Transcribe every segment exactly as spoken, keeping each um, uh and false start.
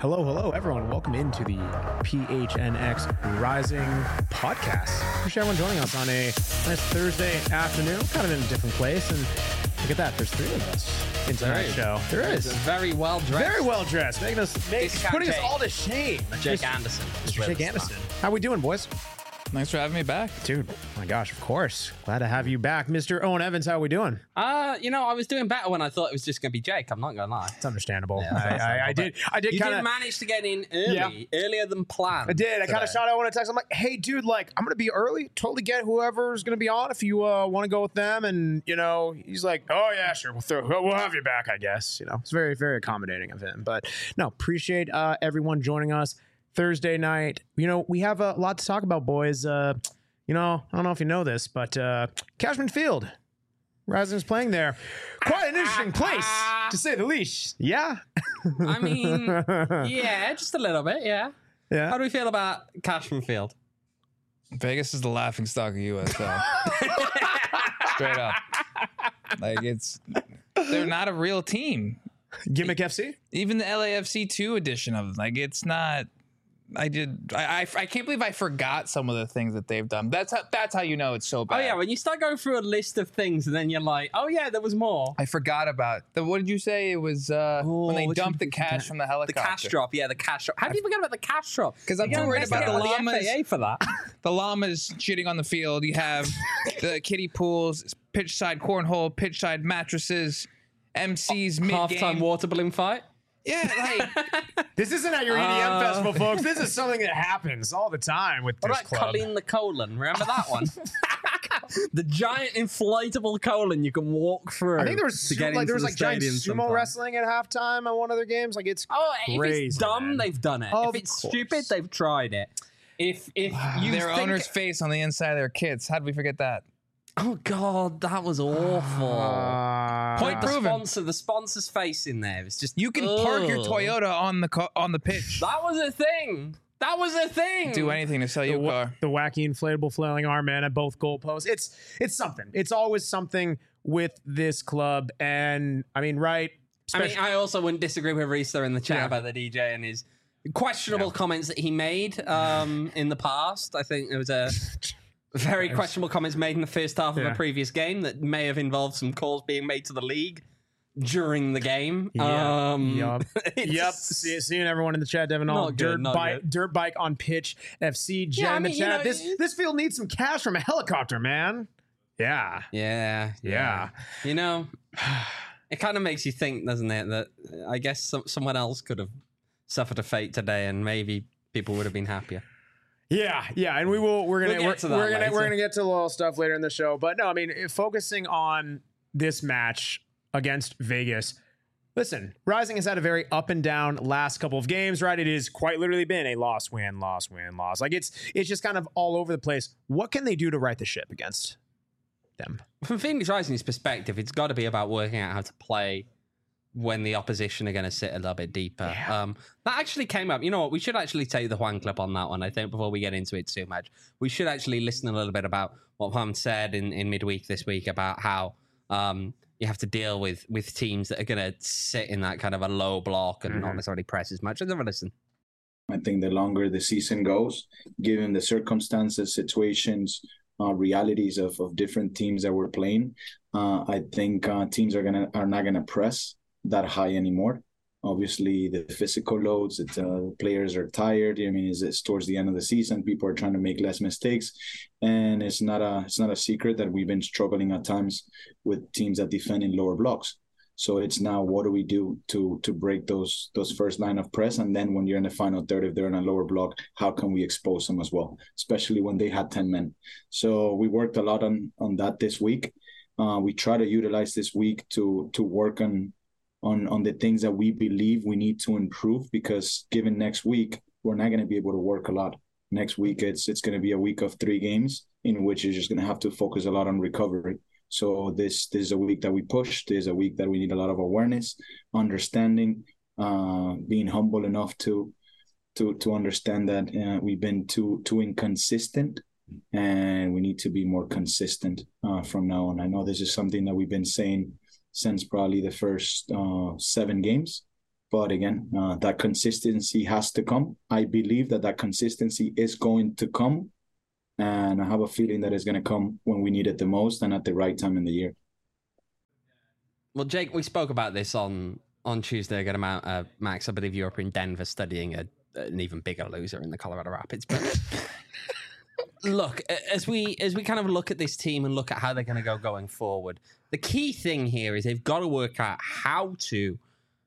Hello, hello, everyone. Welcome into the P H N X Rising podcast. Appreciate everyone joining us on a nice Thursday afternoon, kind of in a different place. And look at that, there's three of us in tonight's show. There is. Very well dressed. Very well dressed, making us, make, putting us all to shame. Jake Anderson. Mister Jake Anderson. How we doing, boys? Thanks for having me back. Dude, oh my gosh, of course. Glad to have you back. Mister Owen Evans, how are we doing? Uh, you know, I was doing better when I thought it was just going to be Jake. I'm not going to lie. It's understandable. Yeah, I, I, I did I did You kind of did manage to get in early, Yeah. earlier than planned. I did. I kind of today. shot out when I text. I'm like, hey, dude, like, I'm going to be early. Totally get whoever's going to be on if you uh, want to go with them. And, you know, he's like, oh, yeah, sure. We'll, throw, we'll have you back, I guess. You know, it's very, very accommodating of him. But no, appreciate uh, everyone joining us Thursday night. You know, we have a lot to talk about, boys. Uh, you know, I don't know if you know this, but uh, Cashman Field, Rising's playing there. Quite an interesting place, to say the least. Yeah? I mean, yeah, just a little bit, yeah. Yeah. How do we feel about Cashman Field? Vegas is the laughing stock of U S L. Straight up. Like, it's, they're not a real team. Gimmick F C? Even the L A F C two edition of it, like, it's not. I did. I, I I can't believe I forgot some of the things that they've done. That's how, that's how you know it's so bad. Oh, yeah, when you start going through a list of things and then you're like, oh, yeah, there was more. I forgot about the. What did you say? It was uh, Oh, when they what dumped the did you cash forget? from the The helicopter. cash drop, yeah, the cash drop. How do you forget about the cash drop? 'Cause I'm You too gotta worried about investigate the with llamas. F A A for that. The llamas shitting on the field. You have the kiddie pools, pitch side cornhole, pitch side mattresses, M Cs mid Halftime game. water balloon fight. Yeah, like This isn't at your E D M Uh, festival, folks. This is something that happens all the time with What this about club. Colleen the colon? Remember that one? The giant inflatable colon you can walk through. I think there was to su- get like there into was the like giant stadium sumo sometimes. wrestling at halftime on one of their games. Like it's Oh, if crazy, it's dumb, man. they've done it. Of if it's course. stupid, they've tried it. If if you their think, owner's face on the inside of their kits. How did we forget that? oh god, that was awful. Uh, Point the proven. sponsor, the sponsor's face in there. It's just You can park your ugh. Toyota on the co- on the pitch. That was a thing. That was a thing. Do anything to sell the, you a wa- car. the wacky inflatable flailing arm man at both goalposts. It's it's something. It's always something with this club. And I mean, right? I mean, Especially- I also wouldn't disagree with Risa in the chat Yeah. about the D J and his questionable comments that he made um, in the past. I think there was a very questionable comments made in the first half of Yeah. a previous game that may have involved some calls being made to the league during the game. Yeah. Um, Yup. it's- Yep. See, seeing everyone in the chat, Devin. All Not good, dirt not bike, good. dirt bike on pitch. F C Jen Yeah, I in the mean, you chat. know, this it- this field needs some cash from a helicopter, man. Yeah. Yeah, Yeah. You know, it kind of makes you think, doesn't it, that uh, I guess some, someone else could have suffered a fate today, and maybe people would have been happier. Yeah, yeah, and we will. We're gonna We'll get we're, to that we're gonna later. we're gonna get to a little stuff later in the show. But no, I mean, if focusing on this match against Vegas. Listen, Rising has had a very up and down last couple of games, right? It has quite literally been a loss, win, loss, win, loss. Like it's it's just kind of all over the place. What can they do to right the ship against them? From Phoenix Rising's perspective, it's got to be about working out how to play when the opposition are going to sit a little bit deeper. Yeah. Um, that actually came up. You know what? We should actually take the Juan clip on that one, I think, before we get into it too much. We should actually listen a little bit about what Juan said in, in midweek this week about how um, you have to deal with with teams that are going to sit in that kind of a low block and Mhm. not necessarily press as much. Let's have a listen. I think the longer the season goes, given the circumstances, situations, uh, realities of, of different teams that we're playing, uh, I think uh, teams are gonna are not gonna press that high anymore. Obviously, the physical loads, it's, uh, players are tired. I mean, it's, it's towards the end of the season. People are trying to make less mistakes, and it's not a it's not a secret that we've been struggling at times with teams that defend in lower blocks. So it's now, what do we do to to break those those first line of press, and then when you're in the final third, if they're in a lower block, how can we expose them as well, especially when they had ten men. So we worked a lot on on that this week. Uh, we try to utilize this week to to work on. On, on the things that we believe we need to improve, because given next week, we're not going to be able to work a lot. Next week, it's it's going to be a week of three games in which you're just going to have to focus a lot on recovery. So this, this is a week that we push. This is a week that we need a lot of awareness, understanding, uh, being humble enough to to to understand that uh, we've been too too inconsistent, and we need to be more consistent uh, from now on. I know this is something that we've been saying since probably the first uh, seven games, But again, uh, that consistency has to come. I believe that that consistency is going to come. And I have a feeling that it's going to come when we need it the most and at the right time in the year. Well, Jake, we spoke about this on, on Tuesday a good amount. Uh, Max, I believe you were up in Denver studying a, an even bigger loser in the Colorado Rapids. But look, as we as we kind of look at this team and look at how they're going to go going forward, the key thing here is they've got to work out how to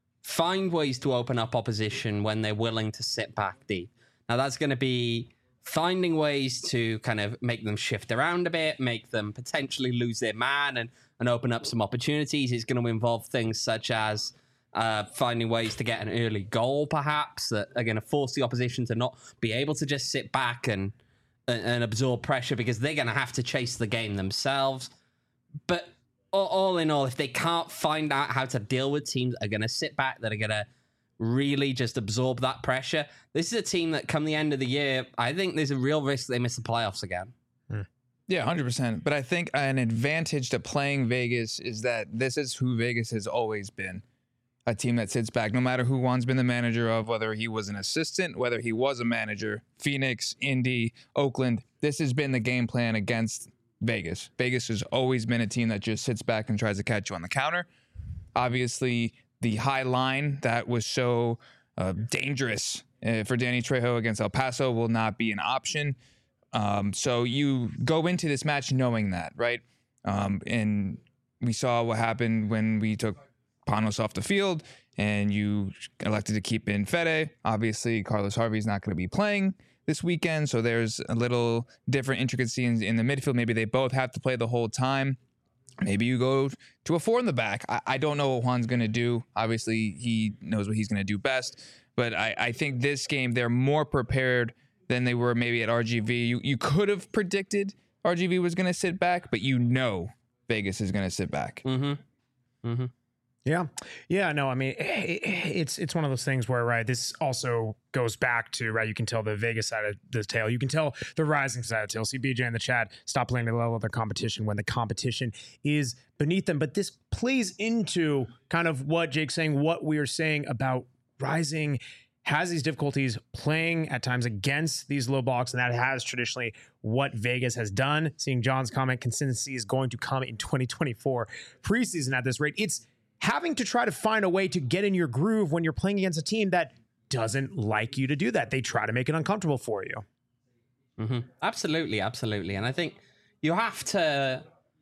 find ways to open up opposition when they're willing to sit back deep. Now, that's going to be finding ways to kind of make them shift around a bit, make them potentially lose their man and, and open up some opportunities. It's going to involve things such as uh, finding ways to get an early goal, perhaps, that are going to force the opposition to not be able to just sit back and, and, and absorb pressure because they're going to have to chase the game themselves. But all, all in all, if they can't find out how to deal with teams that are going to sit back, that are going to really just absorb that pressure, this is a team that come the end of the year, I think there's a real risk they miss the playoffs again. Yeah, one hundred percent. But I think an advantage to playing Vegas is that this is who Vegas has always been. A team that sits back, no matter who Juan's been the manager of, whether he was an assistant, whether he was a manager, Phoenix, Indy, Oakland, this has been the game plan against Vegas. Vegas has always been a team that just sits back and tries to catch you on the counter. Obviously, the high line that was so uh, dangerous uh, for Danny Trejo against El Paso will not be an option. Um, so you go into this match knowing that, right? Um, and we saw what happened when we took Panos off the field and you elected to keep in Fede. Obviously, Carlos Harvey's not going to be playing this weekend, so there's a little different intricacy in, in the midfield. Maybe they both have to play the whole time. Maybe you go to a four in the back. I, I don't know what Juan's going to do. Obviously, he knows what he's going to do best. But I, I think this game, they're more prepared than they were maybe at R G V. You, you could have predicted R G V was going to sit back, but you know Vegas is going to sit back. Mm-hmm. Mm-hmm. Yeah. Yeah. No, I mean, it, it's it's one of those things where, right, this also goes back to, right, you can tell the Vegas side of the tale. You can tell the rising side of the tale. See B J in the chat, stop playing at the level of their competition when the competition is beneath them. But this plays into kind of what Jake's saying, what we are saying about Rising has these difficulties playing at times against these low blocks, and that has traditionally what Vegas has done. Seeing John's comment, consistency is going to come in twenty twenty-four preseason at this rate. It's having to try to find a way to get in your groove when you're playing against a team that doesn't like you to do that. They try to make it uncomfortable for you. Mm-hmm. Absolutely, absolutely. And I think you have to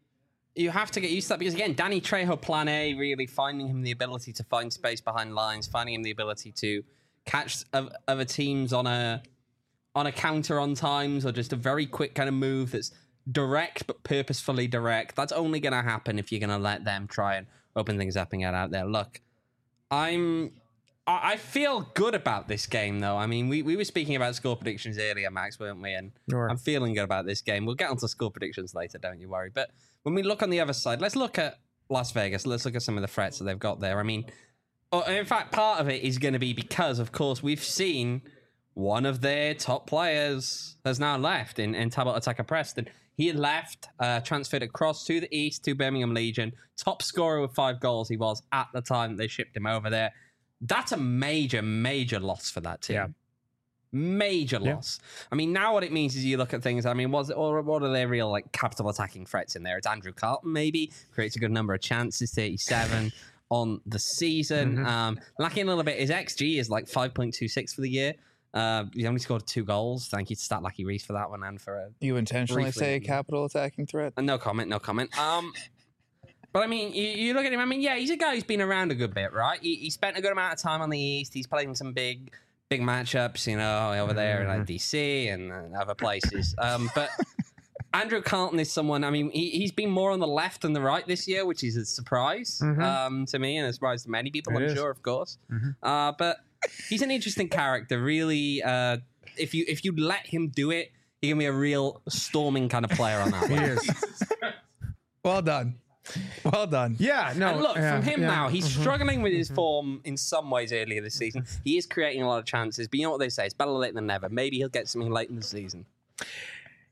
you have to get used to that because, again, Danny Trejo, plan A, really finding him the ability to find space behind lines, finding him the ability to catch other teams on a on a counter on times, or just a very quick kind of move that's direct but purposefully direct. That's only going to happen if you're going to let them try and open things up and get out there. Look, I'm I feel good about this game, though. I mean, we, we were speaking about score predictions earlier, Max, weren't we? And sure. I'm feeling good about this game. We'll get onto score predictions later, don't you worry. But when we look on the other side, let's look at Las Vegas. Let's look at some of the threats that they've got there. I mean, in fact, part of it is going to be because, of course, we've seen one of their top players has now left in, in Tabata Taka Preston. He had left, uh, transferred across to the East, to Birmingham Legion. Top scorer with five goals he was at the time they shipped him over there. That's a major, major loss for that team. Yeah. Major loss. Yeah. I mean, now what it means is you look at things, I mean, was it, or what are their real like capital attacking threats in there? It's Andrew Carlton, maybe. Creates a good number of chances, thirty-seven on the season. Mm-hmm. Um, lacking a little bit. His X G is like five point two six for the year. Uh, he only scored two goals. Thank you to Stat Lucky Reese for that one and for a You intentionally say capital attacking threat? Uh, no comment, no comment. Um, but I mean, you, you look at him, I mean, yeah, he's a guy who's been around a good bit, right? He, he spent a good amount of time on the East. He's played in some big, big matchups, you know, over there in like D C and uh, other places. Um, but Andrew Carlton is someone, I mean, he, he's been more on the left than the right this year, which is a surprise mm-hmm. um, to me and a surprise to many people, it I'm is. sure, of course. Mm-hmm. Uh, but he's an interesting character, really. Uh, if you if you let him do it, he can be a real storming kind of player on that. He is. Well done. Well done. Yeah, no. And look, yeah, from him yeah. now, he's mm-hmm. struggling with his form in some ways earlier this season. He is creating a lot of chances, but you know what they say, it's better late than never. Maybe he'll get something late in the season.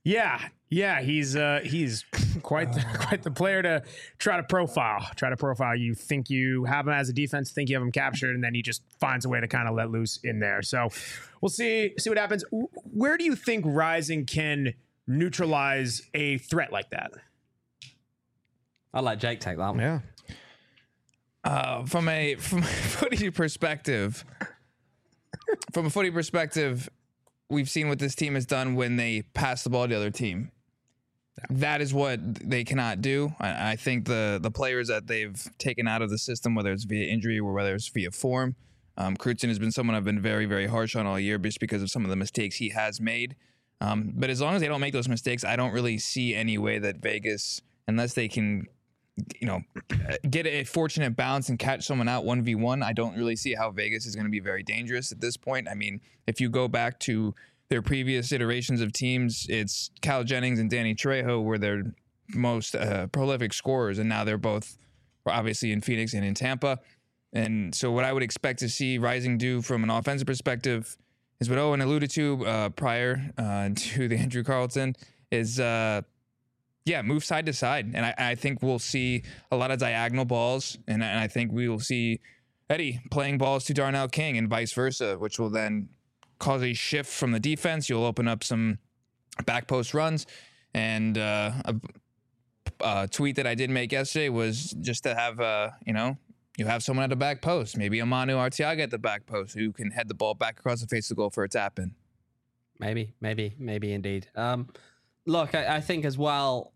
Yeah, yeah, he's uh, he's quite the, quite the player to try to profile. Try to profile. You think you have him as a defense, think you have him captured, and then he just finds a way to kind of let loose in there. So we'll see see what happens. Where do you think Rising can neutralize a threat like that? I'll let Jake take that one. Yeah. Uh, from a from a footy perspective, from a footy perspective, we've seen what this team has done when they pass the ball to the other team. That is what they cannot do. I, I think the the players that they've taken out of the system, whether it's via injury or whether it's via form, um, Crutzen has been someone I've been very, very harsh on all year just because of some of the mistakes he has made. Um, but as long as they don't make those mistakes, I don't really see any way that Vegas, unless they can, you know, get a fortunate bounce and catch someone out one v one, I don't really see how Vegas is going to be very dangerous at this point. I mean, if you go back to their previous iterations of teams, it's Cal Jennings and Danny Trejo were their most uh, prolific scorers, and now they're both obviously in Phoenix and in Tampa. And so what I would expect to see Rising do from an offensive perspective is what Owen alluded to uh, prior uh, to the Andrew Carlton is, uh, yeah, move side to side. And I, I think we'll see a lot of diagonal balls, and, and I think we will see Eddie playing balls to Darnell King and vice versa, which will then cause a shift from the defense. You'll open up some back post runs. And uh, a, a tweet that I did make yesterday was just to have, uh, you know, you have someone at the back post, maybe a Manu Arteaga at the back post who can head the ball back across the face of the goal for a tap in. Maybe, maybe, maybe indeed. Um, look, I, I think as well,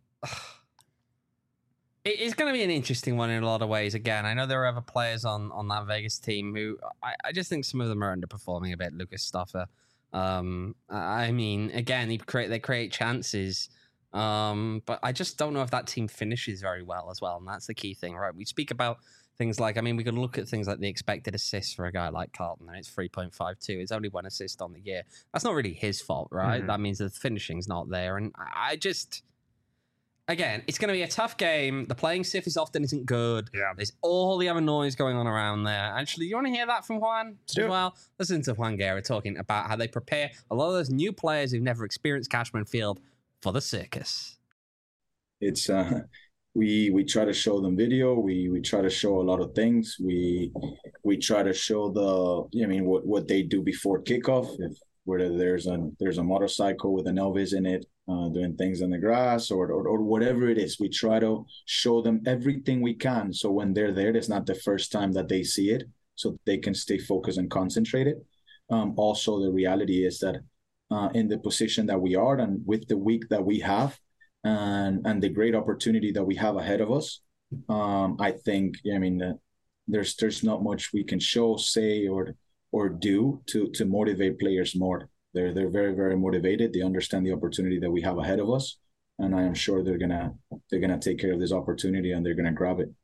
it, it's going to be an interesting one in a lot of ways. Again, I know there are other players on, on that Vegas team who I, I just think some of them are underperforming a bit. Lucas Stoffer. Um, I mean, again, they create they create chances. Um, but I just don't know if that team finishes very well as well. And that's the key thing, right? We speak about things like, I mean, we can look at things like the expected assists for a guy like Carlton, and it's three point five two. It's only one assist on the year. That's not really his fault, right? Mm-hmm. That means the finishing's not there. And I just, again, it's going to be a tough game. The playing surface often isn't good. Yeah. There's all the other noise going on around there. Actually, you want to hear that from Juan as well? Listen to Juan Guerra talking about how they prepare a lot of those new players who've never experienced Cashman Field for the circus. It's, uh, We we try to show them video. We we try to show a lot of things. We we try to show the I mean what, what they do before kickoff. If whether there's a there's a motorcycle with an Elvis in it, uh, doing things in the grass or, or or whatever it is, we try to show them everything we can. So when they're there, it's not the first time that they see it, so they can stay focused and concentrated. Um, also, the reality is that uh, in the position that we are and with the week that we have. And and the great opportunity that we have ahead of us, um, I think. I mean, uh, there's there's not much we can show, say, or or do to to motivate players more. They're they're very very motivated. They understand the opportunity that we have ahead of us, and I am sure they're gonna they're gonna take care of this opportunity and they're gonna grab it.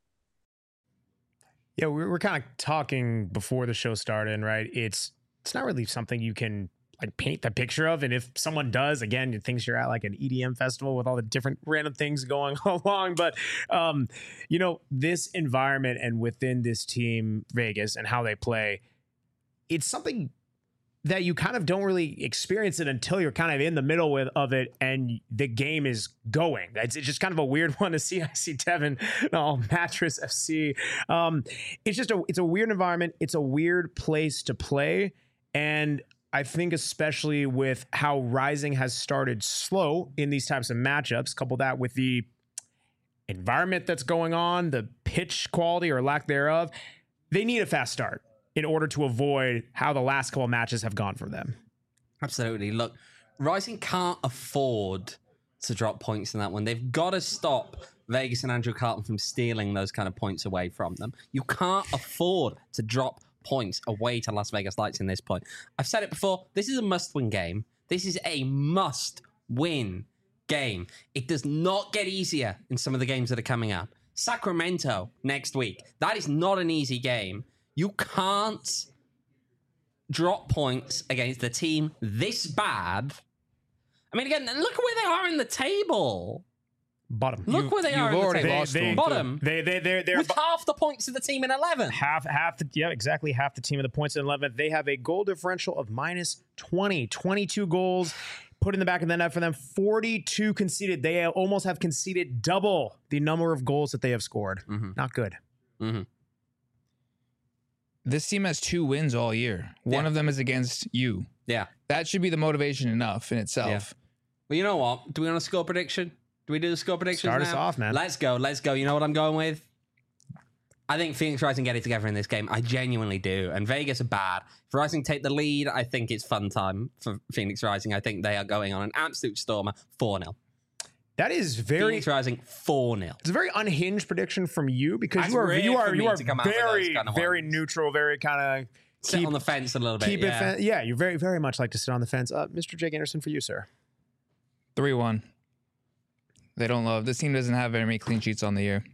Yeah, we were kind of talking before the show started, right? It's it's not really something you can like paint the picture of. And if someone does, again, you think you're at like an E D M festival with all the different random things going along. But, um, you know, this environment and within this team, Vegas, and how they play, it's something that you kind of don't really experience it until you're kind of in the middle with, of it and the game is going. It's, it's just kind of a weird one to see. I see Devin, oh, Mattress F C. Um, it's just a, it's a weird environment. It's a weird place to play. And I think especially with how Rising has started slow in these types of matchups, couple that with the environment that's going on, the pitch quality or lack thereof, they need a fast start in order to avoid how the last couple of matches have gone for them. Absolutely. Look, Rising can't afford to drop points in that one. They've got to stop Vegas and Andrew Carlton from stealing those kind of points away from them. You can't afford to drop points away to Las Vegas Lights in this point. I've said it before, this is a must-win game. This is a must-win game. It does not get easier in some of the games that are coming up. Sacramento next week. That is not an easy game. You can't drop points against the team this bad. I mean, again, look where they are in the table. Bottom. Look you, where they are. You've already the lost they, them. Bottom. They they they they're with half the points of the team in eleventh. Half half the yeah exactly half the team of the points in eleventh. They have a goal differential of minus twenty, twenty-two goals put in the back of the net for them. forty-two conceded. They almost have conceded double the number of goals that they have scored. Mm-hmm. Not good. Mm-hmm. This team has two wins all year. One Yeah. of them is against you. Yeah. That should be the motivation enough in itself. Yeah. Well, you know what? Do we want a score prediction? Do we do the score predictions Start now? us off, man. Let's go. Let's go. You know what I'm going with? I think Phoenix Rising get it together in this game. I genuinely do. And Vegas are bad. If Rising take the lead, I think it's fun time for Phoenix Rising. I think they are going on an absolute stormer. four nil. That is very. Phoenix Rising four nil. It's a very unhinged prediction from you because That's you are rare you are for me you are to come out with those very kind of very ones. neutral, very kind of Sit keep on the fence a little bit. keep yeah. it. Fen- yeah, you very very much like to sit on the fence. Uh, Mister Jake Anderson, for you, sir. three one. They don't love. This team doesn't have very many clean sheets on the year.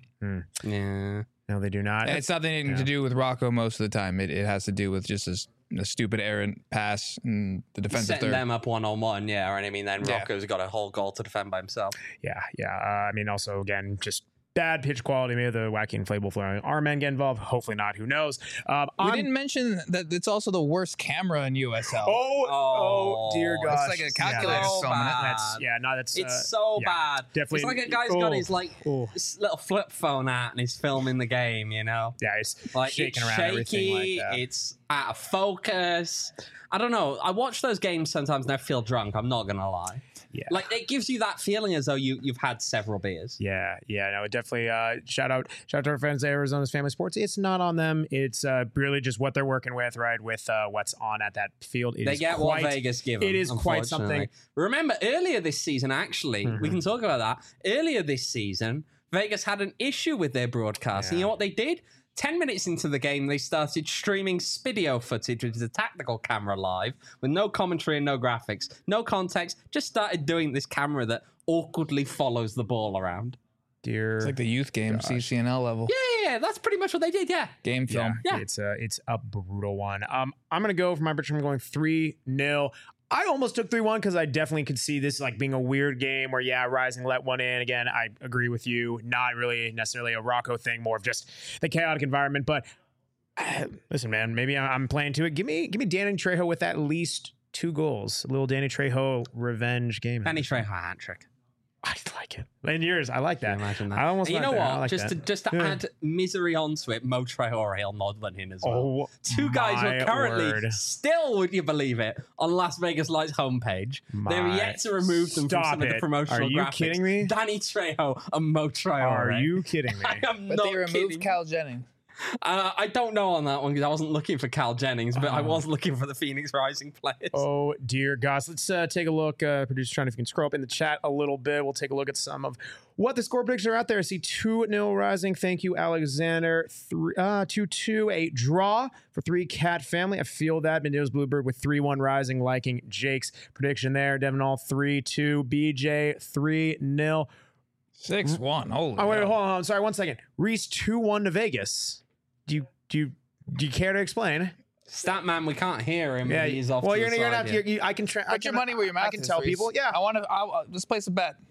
Yeah. No, they do not. And it's nothing yeah. to do with Rocco most of the time. It, it has to do with just a, s- a stupid errant pass and the defensive Setting third. them up one on one, yeah. And I mean, then Yeah. Rocco's got a whole goal to defend by himself. Yeah, yeah. Uh, I mean, also again, just bad pitch quality. Maybe the wacky inflatable flaring arm men get involved. Hopefully not. Who knows? Um, We I'm- didn't mention that it's also the worst camera in U S L. Oh, oh, Oh, dear it's gosh! like a Yeah, calculator that's- filming it. That's yeah. No, that's It's uh, so yeah, bad. definitely- It's like a guy's got oh, his like oh. this little flip phone out and he's filming the game, you know? Yeah, it's Like shaking it's around everything like shaky, that. it's out of focus. I don't know. I watch those games sometimes and I feel drunk, I'm not gonna lie. Yeah. Like it gives you that feeling as though you, you've had several beers. Yeah, yeah, no, it definitely. Uh, shout out, shout out to our friends at Arizona's Family Sports. It's not on them. It's uh, really just what they're working with, right? With uh, what's on at that field. It They is get quite, what Vegas give them. it is quite something. unfortunately. Remember, earlier this season, actually, we Mhm. can talk about that. Earlier this season, Vegas had an issue with their broadcast. And you Yeah. know what they did? Ten minutes into the game, they started streaming video footage, which is a tactical camera live, with no commentary and no graphics, no context. Just started doing this camera that awkwardly follows the ball around. Dear. It's like the youth game, Gosh. C C N L level. Yeah, yeah, yeah, that's pretty much what they did. Yeah. Game yeah, film. Yeah. it's a it's a brutal one. Um, I'm gonna go for my prediction. I'm going three nil. I almost took three one because I definitely could see this like being a weird game where, yeah, Rising let one in. Again, I agree with you. Not really necessarily a Rocco thing, more of just the chaotic environment. But uh, listen, man, maybe I- I'm playing to it. Give me, give me Danny Trejo with at least two goals. A little Danny Trejo revenge game. Danny Trejo hat trick. I like it. In yours, I like Can that. you imagine that? I almost And you went know there. what? I like just that. to just to Yeah. add misery onto it, Mo Traore nod in in as well. Oh, Two guys who my are currently word. still, would you believe it, on Las Vegas Lights homepage. They're My- yet to remove them Stop from some of it. the promotional Are you graphics. kidding me? Danny Trejo and Mo Traore. Are you kidding me? I am But not they removed kidding. Cal Jennings. Uh, I don't know on that one because I wasn't looking for Cal Jennings, but I Oh. was looking for the Phoenix Rising players. Oh dear gosh. Let's uh, take a look. Uh, producer trying to if you can scroll up in the chat a little bit. We'll take a look at some of what the score predictions are out there. I see two nil Rising. Thank you, Alexander. Three uh two two. A draw for three Cat Family. I feel that. Mendo's Bluebird with three one Rising, liking Jake's prediction there. Devin All three two. B J three nil. six one. Holy Oh wait, hell. hold on, hold on. Sorry, one second. Reese two one to Vegas. Do you do you do you care to explain? Statman, we can't hear him. Yeah. He's off well, to you're the gonna, you're side, gonna have yeah. to. You, I can. Tra- I Put your can- money where your mouth I can is, tell Reese. people. Yeah. I want to. Uh, let's place a bet.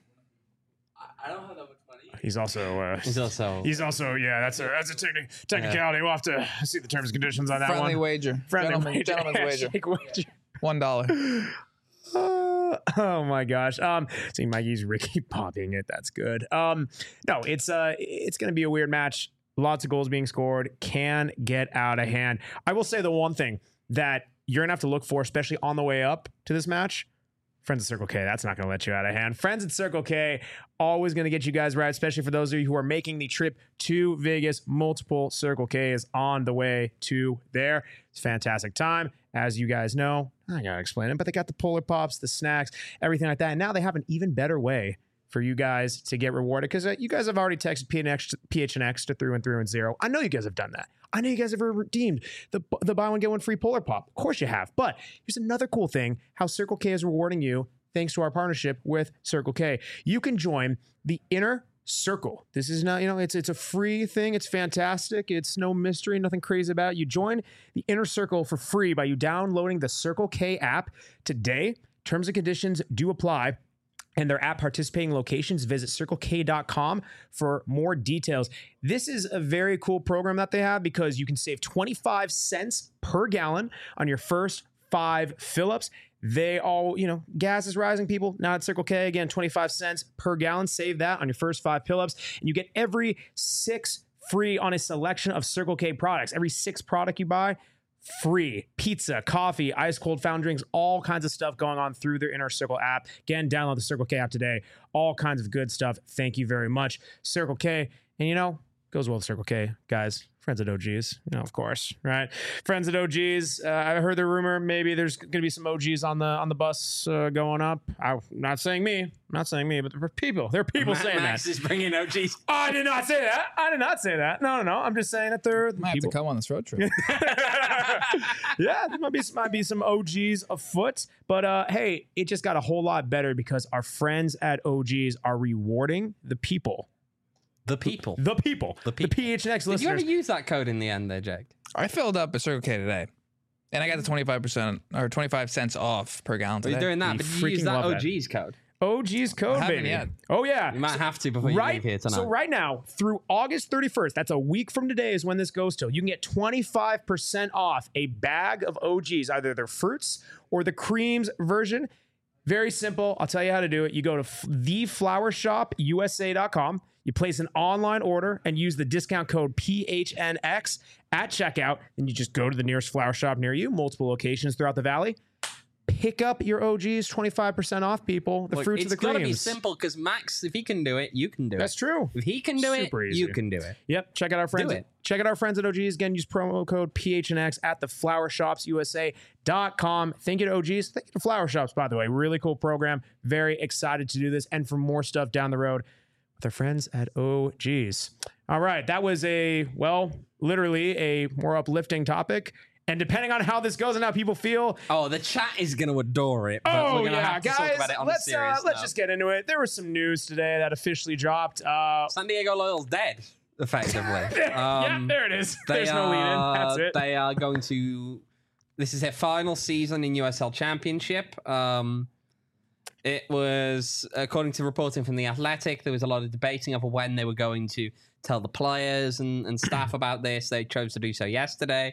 I don't have that much money. He's also. Uh, He's also. He's also, yeah, that's a that's a techni- technicality. We'll have to see the terms and conditions on that Friendly one. wager. Friendly Gentleman, wager. Gentleman's wager. Handshake wager. One dollar. Uh, oh my gosh. Um, see Mikey's Ricky popping it. That's good. Um, no, it's uh, it's gonna be a weird match. Lots of goals being scored. Can get out of hand. I will say the one thing that you're gonna have to look for, especially on the way up to this match. Friends at Circle K, that's not going to let you out of hand. Friends at Circle K, always going to get you guys right, especially for those of you who are making the trip to Vegas. Multiple Circle K is on the way to there. It's a fantastic time. As you guys know, I got to explain it, but they got the Polar Pops, the snacks, everything like that. And now they have an even better way for you guys to get rewarded because uh, you guys have already texted P H N X, P H N X to through and through and zero. I know you guys have done that. I know you guys have redeemed the, the buy one, get one free Polar Pop. Of course you have. But here's another cool thing, how Circle K is rewarding you thanks to our partnership with Circle K. You can join the Inner Circle. This is not, you know, it's it's a free thing. It's fantastic. It's no mystery, nothing crazy about it. You join the Inner Circle for free by you downloading the Circle K app today. Terms and conditions do apply. And their app participating locations, visit circle k dot com for more details. This is a very cool program that they have because you can save twenty-five cents per gallon on your first five fill-ups. They all, you know, gas is rising, people. Now at Circle K, again, twenty-five cents per gallon. Save that on your first five fill-ups. And you get every six free on a selection of Circle K products. Every six product you buy, free. Pizza, coffee, ice cold fountain drinks, all kinds of stuff going on through their Inner Circle app. Again, download the Circle K app today. All kinds of good stuff. Thank you very much, Circle K. And you know, goes well with Circle K, guys. Friends at O Gs, you know, of course, right? Friends at O Gs. Uh, I heard the rumor maybe there's going to be some O Gs on the on the bus uh, going up. I'm not saying me, I'm not saying me, but there are people. There are people Max, saying Max that. is bringing O Gs. I did not say that. I did not say that. No, no, no. I'm just saying that there are Might have people. to come on this road trip. Yeah, there might be might be some O Gs afoot, but uh, hey, it just got a whole lot better because our friends at O Gs are rewarding the people. The people. The people. The The, people. P H N X Did you listeners. ever use that code in the end there, Jake? I filled up a Circle K today, and I got the twenty-five percent or twenty-five cents off per gallon Are today. you doing that? You but did you use freaking that love O that. G's code? O G's code, I haven't baby. yet. Oh, yeah. You might have to before you right, leave here tonight. So right now, through August thirty-first, that's a week from today is when this goes till, you can get twenty-five percent off a bag of O Gs, either their fruits or the creams version. Very simple. I'll tell you how to do it. You go to the flower shop U S A dot com. You place an online order and use the discount code P H N X at checkout. And you just go to the nearest flower shop near you, multiple locations throughout the valley. Pick up your O Gs, twenty-five percent off, people. The Look, fruits it's of the got to be creams. simple because Max, if he can do it, you can do That's it. true. If he can do Super it, easy. you can do it. Yep. Check out our friends. it. Check out our friends at O Gs. Again, use promo code P H N X at the flower shops U S A dot com. Thank you to O Gs. Thank you to Flower Shops, by the way. Really cool program. Very excited to do this and for more stuff down the road with our friends at O Gs. All right. That was a, well, literally a more uplifting topic. And depending on how this goes and how people feel, Oh, the chat is going to adore it. But oh we're going to yeah, have to guys, talk about it on let's a serious uh, let's note. just get into it. There was some news today that officially dropped. Uh, San Diego Loyal's dead, effectively. yeah, Um, there it is. They There's no lead in. are- That's it. They are going to. This is their final season in U S L Championship. Um, it was, according to reporting from The Athletic, there was a lot of debating over when they were going to tell the players and, and staff about this. They chose to do so yesterday,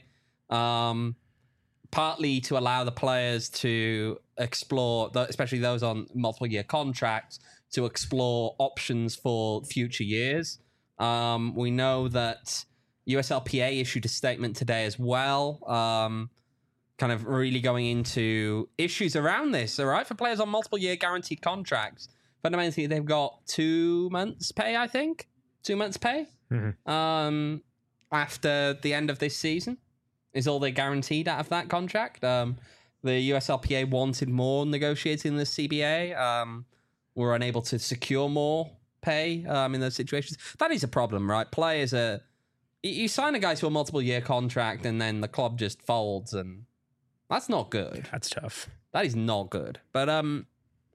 um, partly to allow the players to explore, the- especially those on multiple year contracts, to explore options for future years. Um, we know that U S L P A issued a statement today as well, um, kind of really going into issues around this, all right, for players on multiple year guaranteed contracts. Fundamentally, they've got two months pay, I think. Two months pay Mhm. um, after the end of this season is all they're guaranteed out of that contract. Um, the U S L P A wanted more negotiating in the C B A. Um, were unable to secure more pay um, in those situations. That is a problem, right? Players are... You you sign a guy to a multiple year contract and then the club just folds, and that's not good. That's tough. That is not good. But um,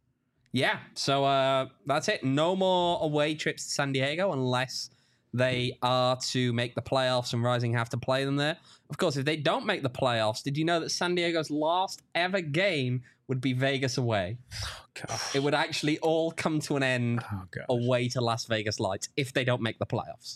yeah. So uh, that's it. No more away trips to San Diego unless they are to make the playoffs and Rising have to play them there. Of course, if they don't make the playoffs, did you know that San Diego's last ever game would be Vegas away? God. It would actually all come to an end Oh god. away to Las Vegas Lights if they don't make the playoffs.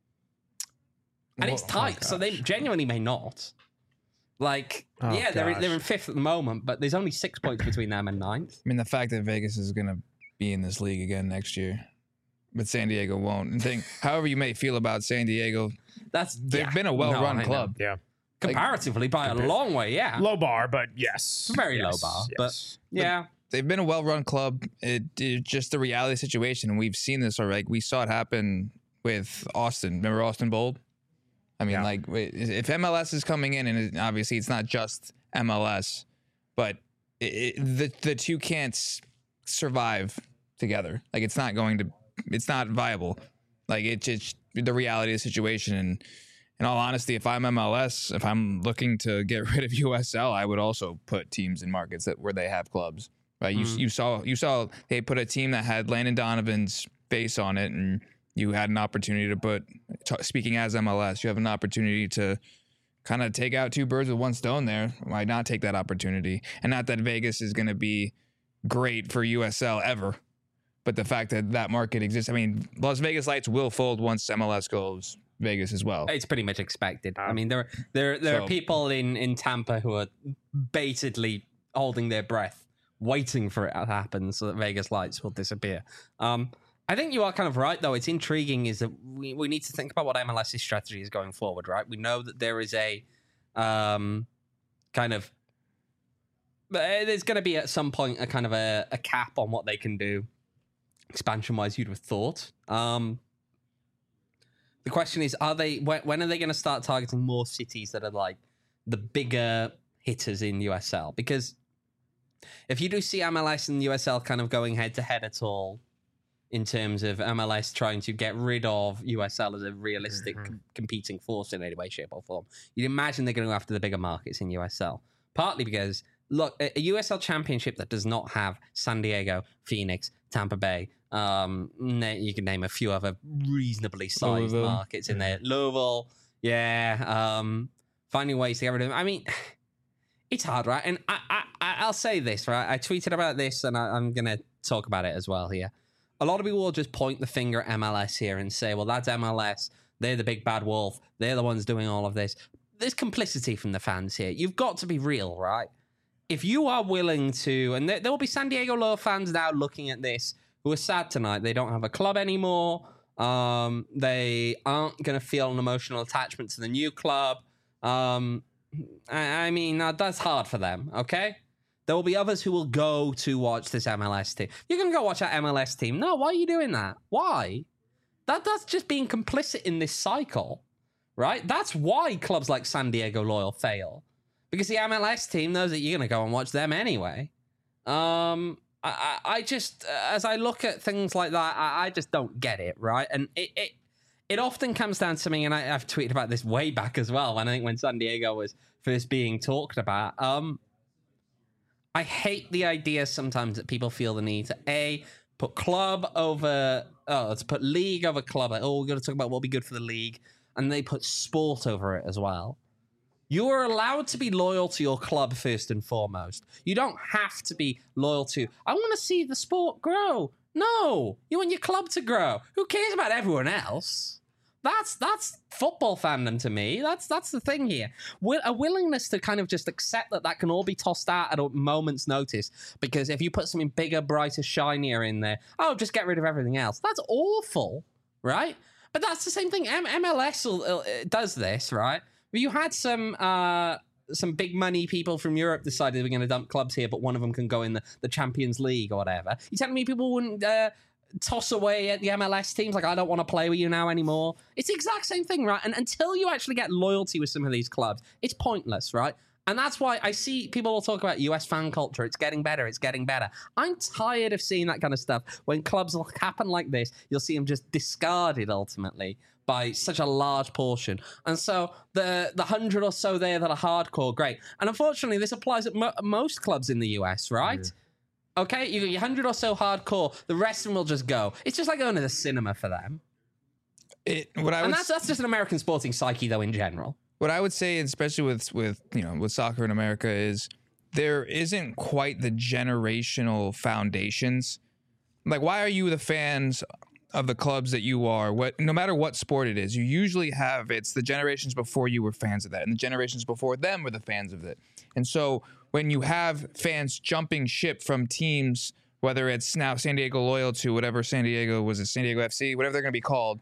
And it's Oh, tight, so they gosh. genuinely may not. Like, Oh, yeah, they're, gosh. they're in fifth at the moment, but there's only six points between them and ninth. I mean, the fact that Vegas is going to be in this league again next year, but San Diego won't. And think, however you may feel about San Diego, That's they've yeah. been a No, well-run I know. club. Yeah. Comparatively, by a long way, yeah. Low bar, but yes. Very low Yes, bar, yes. but yeah. They've been a well-run club. It, it's just the reality situation, and we've seen this already. We saw it happen with Austin. Remember Austin Bold? I mean, Yeah. Mm-hmm. like, wait, if M L S is coming in, and it, obviously it's not just M L S, but it, it, the the two can't s- survive together. Like, it's not going to, it's not viable. Like, it's it's the reality of the situation. And in all honesty, if I'm M L S, if I'm looking to get rid of U S L, I would also put teams in markets that where they have clubs. Right? You Mm. you saw you saw they put a team that had Landon Donovan's face on it, and you had an opportunity to put. T- speaking as M L S, you have an opportunity to kind of take out two birds with one stone there. Why not take that opportunity? And not that Vegas is going to be great for U S L ever, but the fact that that market exists. I mean, Las Vegas Lights will fold once M L S goes Vegas as well. It's pretty much expected. I mean, there there there So- are people in, in Tampa who are basically holding their breath, waiting for it to happen so that Vegas lights will disappear. Um, I think you are kind of right, though. It's intriguing is that we, we need to think about what M L S's strategy is going forward, right? We know that there is a um, kind of... There's going to be at some point a kind of a, a cap on what they can do expansion-wise, you'd have thought. Um, the question is, are they when, when are they going to start targeting more cities that are like the bigger hitters in U S L? Because if you do see M L S and U S L kind of going head-to-head at all, in terms of M L S trying to get rid of U S L as a realistic mm-hmm. com- competing force in any way, shape, or form, you'd imagine they're going to go after the bigger markets in U S L. Partly because, look, a U S L championship that does not have San Diego, Phoenix, Tampa Bay, um, you can name a few other reasonably sized Louisville. markets in there. Louisville, yeah. Um, finding ways to get rid of them. I mean, it's hard, right? And I, I, I'll say this, right? I tweeted about this, and I, I'm going to talk about it as well here. A lot of people will just point the finger at M L S here and say, well, that's M L S. They're the big bad wolf. They're the ones doing all of this. There's complicity from the fans here. You've got to be real, right? If you are willing to, and there, there will be San Diego Loyal fans now looking at this who are sad tonight. They don't have a club anymore. Um, they aren't going to feel an emotional attachment to the new club. Um, I, I mean, uh, that's hard for them, okay? There will be others who will go to watch this M L S team. You're going to go watch that M L S team. No, why are you doing that? Why? That That's just being complicit in this cycle, right? That's why clubs like San Diego Loyal fail. Because the M L S team knows that you're going to go and watch them anyway. Um, I, I, I just, as I look at things like that, I, I just don't get it, right? And it, it it often comes down to me, and I, I've tweeted about this way back as well, when I think when San Diego was first being talked about. Um, I hate the idea sometimes that people feel the need to, A, put club over, oh, to put league over club. Like, oh, we're going to talk about what'll be good for the league. And they put sport over it as well. You are allowed to be loyal to your club first and foremost. You don't have to be loyal to, I want to see the sport grow. No, you want your club to grow. Who cares about everyone else? That's that's football fandom to me. That's that's the thing here. A willingness to kind of just accept that that can all be tossed out at a moment's notice. Because if you put something bigger, brighter, shinier in there, oh, just get rid of everything else. That's awful, right? But that's the same thing. M- MLS will, uh, does this, right? You had some uh, some big money people from Europe decided we're going to dump clubs here, but one of them can go in the, the Champions League or whatever. You telling me people wouldn't uh, toss away at the M L S teams like, I don't want to play with you now anymore? It's the exact same thing, right? And until you actually get loyalty with some of these clubs, it's pointless, right? And that's why I see people will talk about U S fan culture. It's getting better. It's getting better. I'm tired of seeing that kind of stuff. When clubs will happen like this, you'll see them just discarded ultimately by such a large portion. And so the the hundred or so there that are hardcore, great. And unfortunately, this applies at mo- most clubs in the U S, right? Yeah. Okay, you got your hundred or so hardcore. The rest of them will just go. It's just like going to the cinema for them. It, what I and would that's that's just an American sporting psyche, though, in general. What I would say, especially with with you know with soccer in America, is there isn't quite the generational foundations. Like, why are you the fans of the clubs that you are? What, no matter what sport it is, you usually have, it's the generations before you were fans of that, and the generations before them were the fans of it. And so when you have fans jumping ship from teams, whether it's now San Diego Loyal to whatever San Diego was, a San Diego F C, whatever they're going to be called,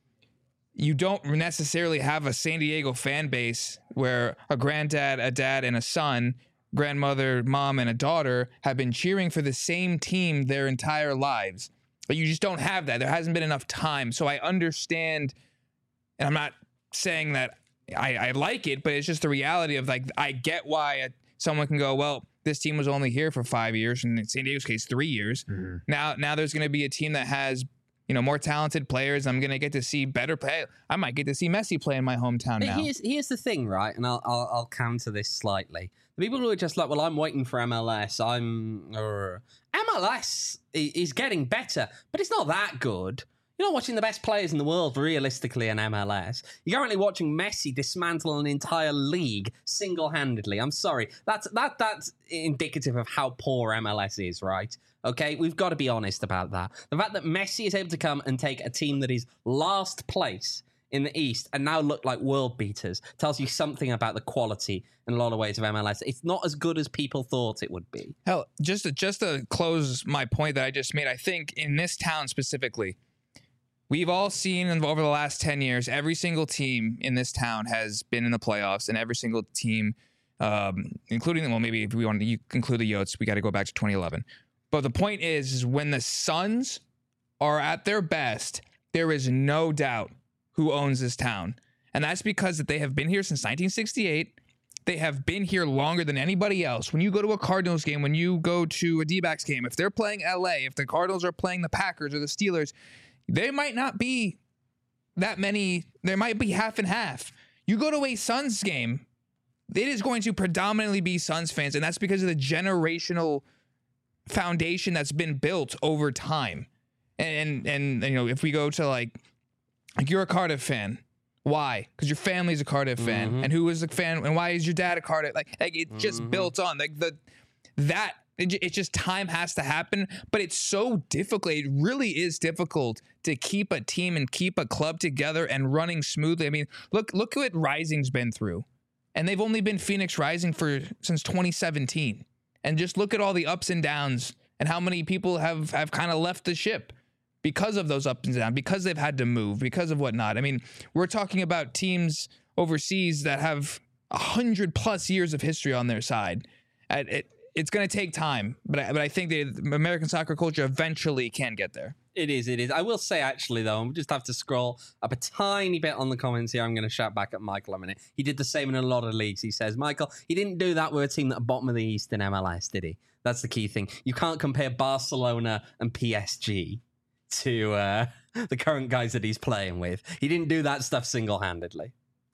you don't necessarily have a San Diego fan base where a granddad, a dad, and a son, grandmother, mom, and a daughter have been cheering for the same team their entire lives. But you just don't have that. There hasn't been enough time. So I understand, and I'm not saying that I, I like it, but it's just the reality of, like, I get why a, someone can go, well, this team was only here for five years, and in San Diego's case, three years. Mm-hmm. Now, now there's going to be a team that has, you know, more talented players. I'm going to get to see better play. I might get to see Messi play in my hometown now. Here's, here's the thing, right? And I'll, I'll I'll counter this slightly. The people who are just like, well, I'm waiting for M L S. I'm uh, M L S is getting better, but it's not that good. You're not watching the best players in the world realistically in M L S. You're currently watching Messi dismantle an entire league single-handedly. I'm sorry. That's that that's indicative of how poor M L S is, right? Okay, we've got to be honest about that. The fact that Messi is able to come and take a team that is last place in the East and now look like world beaters tells you something about the quality in a lot of ways of M L S. It's not as good as people thought it would be. Hell, just to, just to close my point that I just made, I think in this town specifically, we've all seen over the last ten years, every single team in this town has been in the playoffs, and every single team, um, including, well, maybe if we want to include the Yotes, we got to go back to twenty eleven. But the point is, is when the Suns are at their best, there is no doubt who owns this town. And that's because that they have been here since nineteen sixty-eight. They have been here longer than anybody else. When you go to a Cardinals game, when you go to a D-backs game, if they're playing L A, if the Cardinals are playing the Packers or the Steelers, they might not be that many. There might be half and half. You go to a Suns game, it is going to predominantly be Suns fans, and that's because of the generational foundation that's been built over time. And, and, and you know, if we go to like, like you're a Cardiff fan. Why? Because your family's a Cardiff fan. Mm-hmm. And who is a fan? And why is your dad a Cardiff? Like, like it just Mm-hmm. built on. Like the that it, it's just time has to happen. But it's so difficult. It really is difficult to keep a team and keep a club together and running smoothly. I mean, look look what Rising's been through, and they've only been Phoenix Rising for since twenty seventeen. And just look at all the ups and downs and how many people have have kind of left the ship because of those ups and downs, because they've had to move, because of whatnot. I mean, we're talking about teams overseas that have a hundred plus years of history on their side. It, it, it's going to take time, but I, but I think the American soccer culture eventually can get there. It is, it is. I will say, actually, though, I just have to scroll up a tiny bit on the comments here. I'm going to shout back at Michael a minute. He did the same in a lot of leagues. He says, Michael, he didn't do that with a team at the bottom of the East in M L S, did he? That's the key thing. You can't compare Barcelona and P S G to uh, the current guys that he's playing with. He didn't do that stuff single-handedly.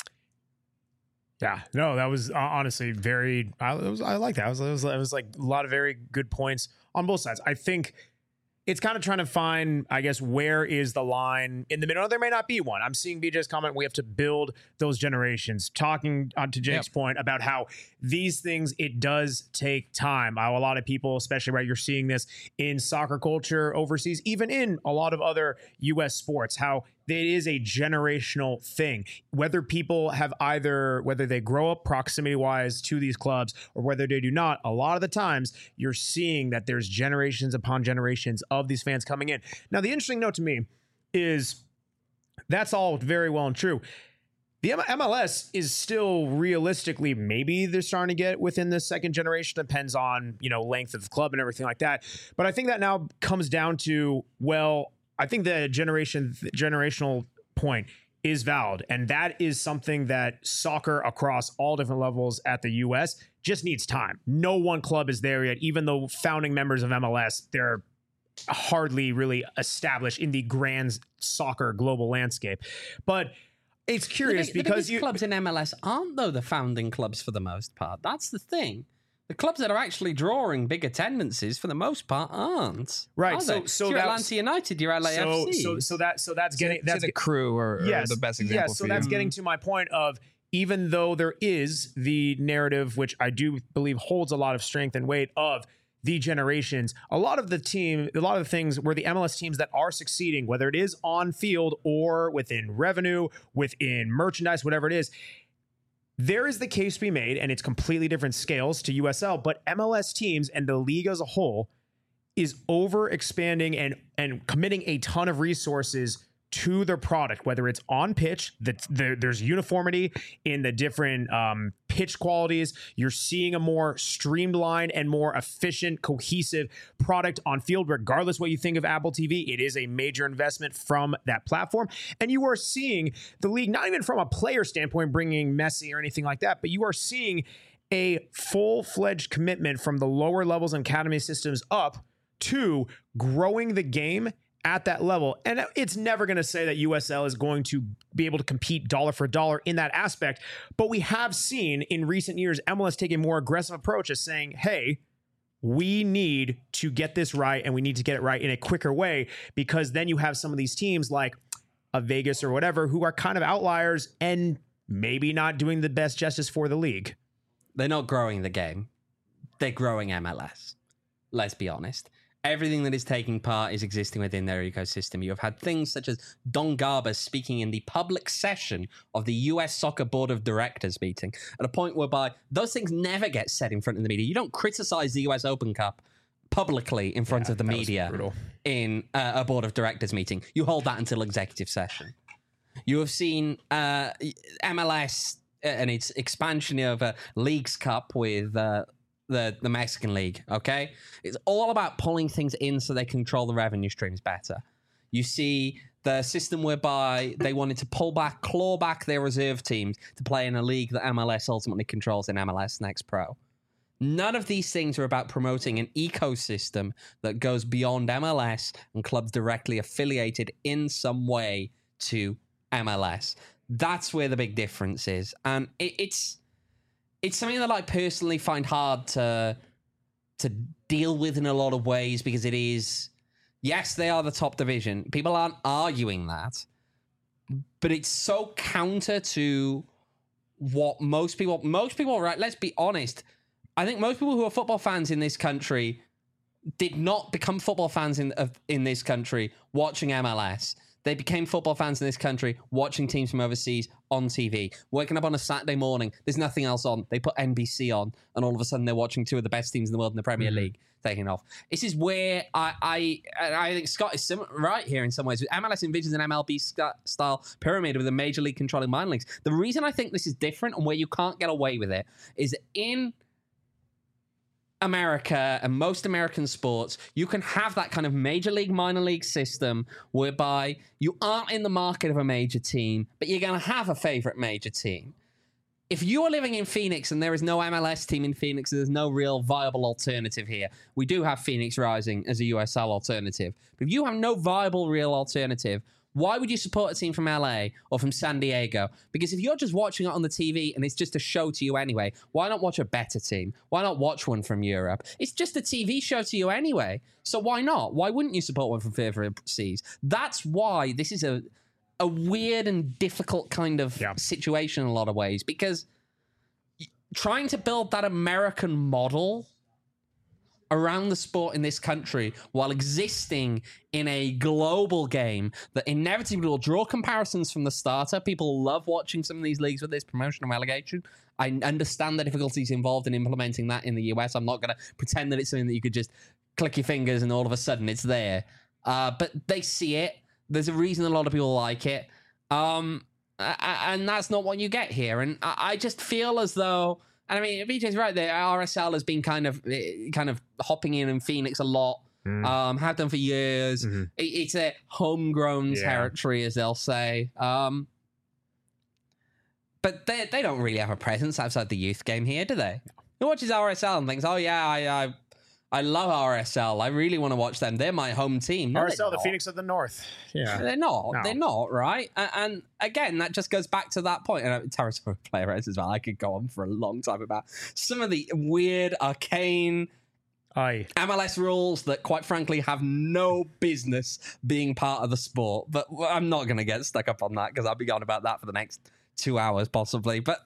Yeah, no, that was uh, honestly very. I it was I like that. It was, it was it was like a lot of very good points on both sides. I think it's kind of trying to find, I guess, where is the line in the middle? There may not be one. I'm seeing B J's comment. We have to build those generations. Talking on to Jake's yep. point about how these things, it does take time. How a lot of people, especially right, you're seeing this in soccer culture overseas, even in a lot of other U S sports, how it is a generational thing. Whether people have either, whether they grow up proximity wise to these clubs or whether they do not, a lot of the times you're seeing that there's generations upon generations of these fans coming in. Now, the interesting note to me is that's all very well and true. The M L S is still realistically, maybe they're starting to get within the second generation. Depends on, you know, length of the club and everything like that. But I think that now comes down to, well, I think the generation the generational point is valid. And that is something that soccer across all different levels at the U S just needs time. No one club is there yet, even though founding members of M L S, they're hardly really established in the grand soccer global landscape. But it's curious the big, because the you clubs in M L S aren't, though, the founding clubs for the most part. That's the thing. The clubs that are actually drawing big attendances, for the most part, aren't. Right. Are so, they? so you're that's Atlanta United, you're L A F C. So, so, so that, so that's getting that's to the crew or, yes, or the best example. Yes. So for that's you. getting to my point of, even though there is the narrative, which I do believe holds a lot of strength and weight of the generations, a lot of the team, a lot of the things where the M L S teams that are succeeding, whether it is on field or within revenue, within merchandise, whatever it is, there is the case to be made, and it's completely different scales to U S L, but M L S teams and the league as a whole is over expanding and, and committing a ton of resources to their product, whether it's on pitch, that the, there's uniformity in the different um, pitch qualities. You're seeing a more streamlined and more efficient, cohesive product on field, regardless what you think of Apple T V. It is a major investment from that platform. And you are seeing the league, not even from a player standpoint, bringing Messi or anything like that, but you are seeing a full-fledged commitment from the lower levels and academy systems up to growing the game at that level. And it's never going to say that U S L is going to be able to compete dollar for dollar in that aspect. But we have seen in recent years, M L S take a more aggressive approach as saying, hey, we need to get this right, and we need to get it right in a quicker way, because then you have some of these teams like a Vegas or whatever who are kind of outliers and maybe not doing the best justice for the league. They're not growing the game. They're growing M L S. Let's be honest. Everything that is taking part is existing within their ecosystem. You have had things such as Don Garber speaking in the public session of the U S Soccer Board of Directors meeting, at a point whereby those things never get said in front of the media. You don't criticize the U S Open Cup publicly in front Yeah, of the that was media brutal. in uh, a Board of Directors meeting. You hold that until executive session. You have seen uh, M L S and its expansion of a Leagues Cup with... Uh, The, the Mexican League, okay? It's all about pulling things in so they control the revenue streams better. You see the system whereby they wanted to pull back, claw back their reserve teams to play in a league that M L S ultimately controls in M L S Next Pro. None of these things are about promoting an ecosystem that goes beyond M L S and clubs directly affiliated in some way to M L S. That's where the big difference is. And it, it's... It's something that I personally find hard to to deal with in a lot of ways because it is, yes, they are the top division. People aren't arguing that, but it's so counter to what most people, most people, right? Let's be honest. I think most people who are football fans in this country did not become football fans in of, in this country watching M L S. They became football fans in this country watching teams from overseas on T V. Waking up on a Saturday morning, there's nothing else on. They put N B C on, and all of a sudden they're watching two of the best teams in the world in the Premier mm-hmm. League taking off. This is where I I, I think Scott is sim- right here in some ways. M L S envisions an M L B style pyramid with a major league controlling minor leagues. The reason I think this is different and where you can't get away with it is in America and most American sports, you can have that kind of major league, minor league system whereby you aren't in the market of a major team, but you're going to have a favorite major team. If you are living in Phoenix and there is no M L S team in Phoenix, there's no real viable alternative here. We do have Phoenix Rising as a U S L alternative. But if you have no viable real alternative, why would you support a team from L A or from San Diego? Because if you're just watching it on the T V and it's just a show to you anyway, why not watch a better team? Why not watch one from Europe? It's just a T V show to you anyway. So why not? Why wouldn't you support one from further overseas? That's why this is a a weird and difficult kind of yeah. situation in a lot of ways. Because trying to build that American model around the sport in this country while existing in a global game that inevitably will draw comparisons from the starter. People love watching some of these leagues with this promotion and relegation. I understand the difficulties involved in implementing that in the U S. I'm not going to pretend that it's something that you could just click your fingers and all of a sudden it's there. Uh, but they see it. There's a reason a lot of people like it. Um, and that's not what you get here. And I just feel as though... And I mean, B J's right there. R S L has been kind of kind of hopping in in Phoenix a lot. Mm. Um, have done for years. Mm-hmm. It, it's a homegrown yeah. territory, as they'll say. Um, but they they don't really have a presence outside the youth game here, do they? Who watches R S L and thinks, "Oh yeah, I I, I love R S L. I really want to watch them. They're my home team." No, R S L, the Phoenix of the North. Yeah, they're not. No. They're not, right? And, and again, that just goes back to that point. And Terrace player rates as well. I could go on for a long time about some of the weird, arcane Aye. M L S rules that, quite frankly, have no business being part of the sport. But I'm not going to get stuck up on that because I'll be going about that for the next two hours, possibly. But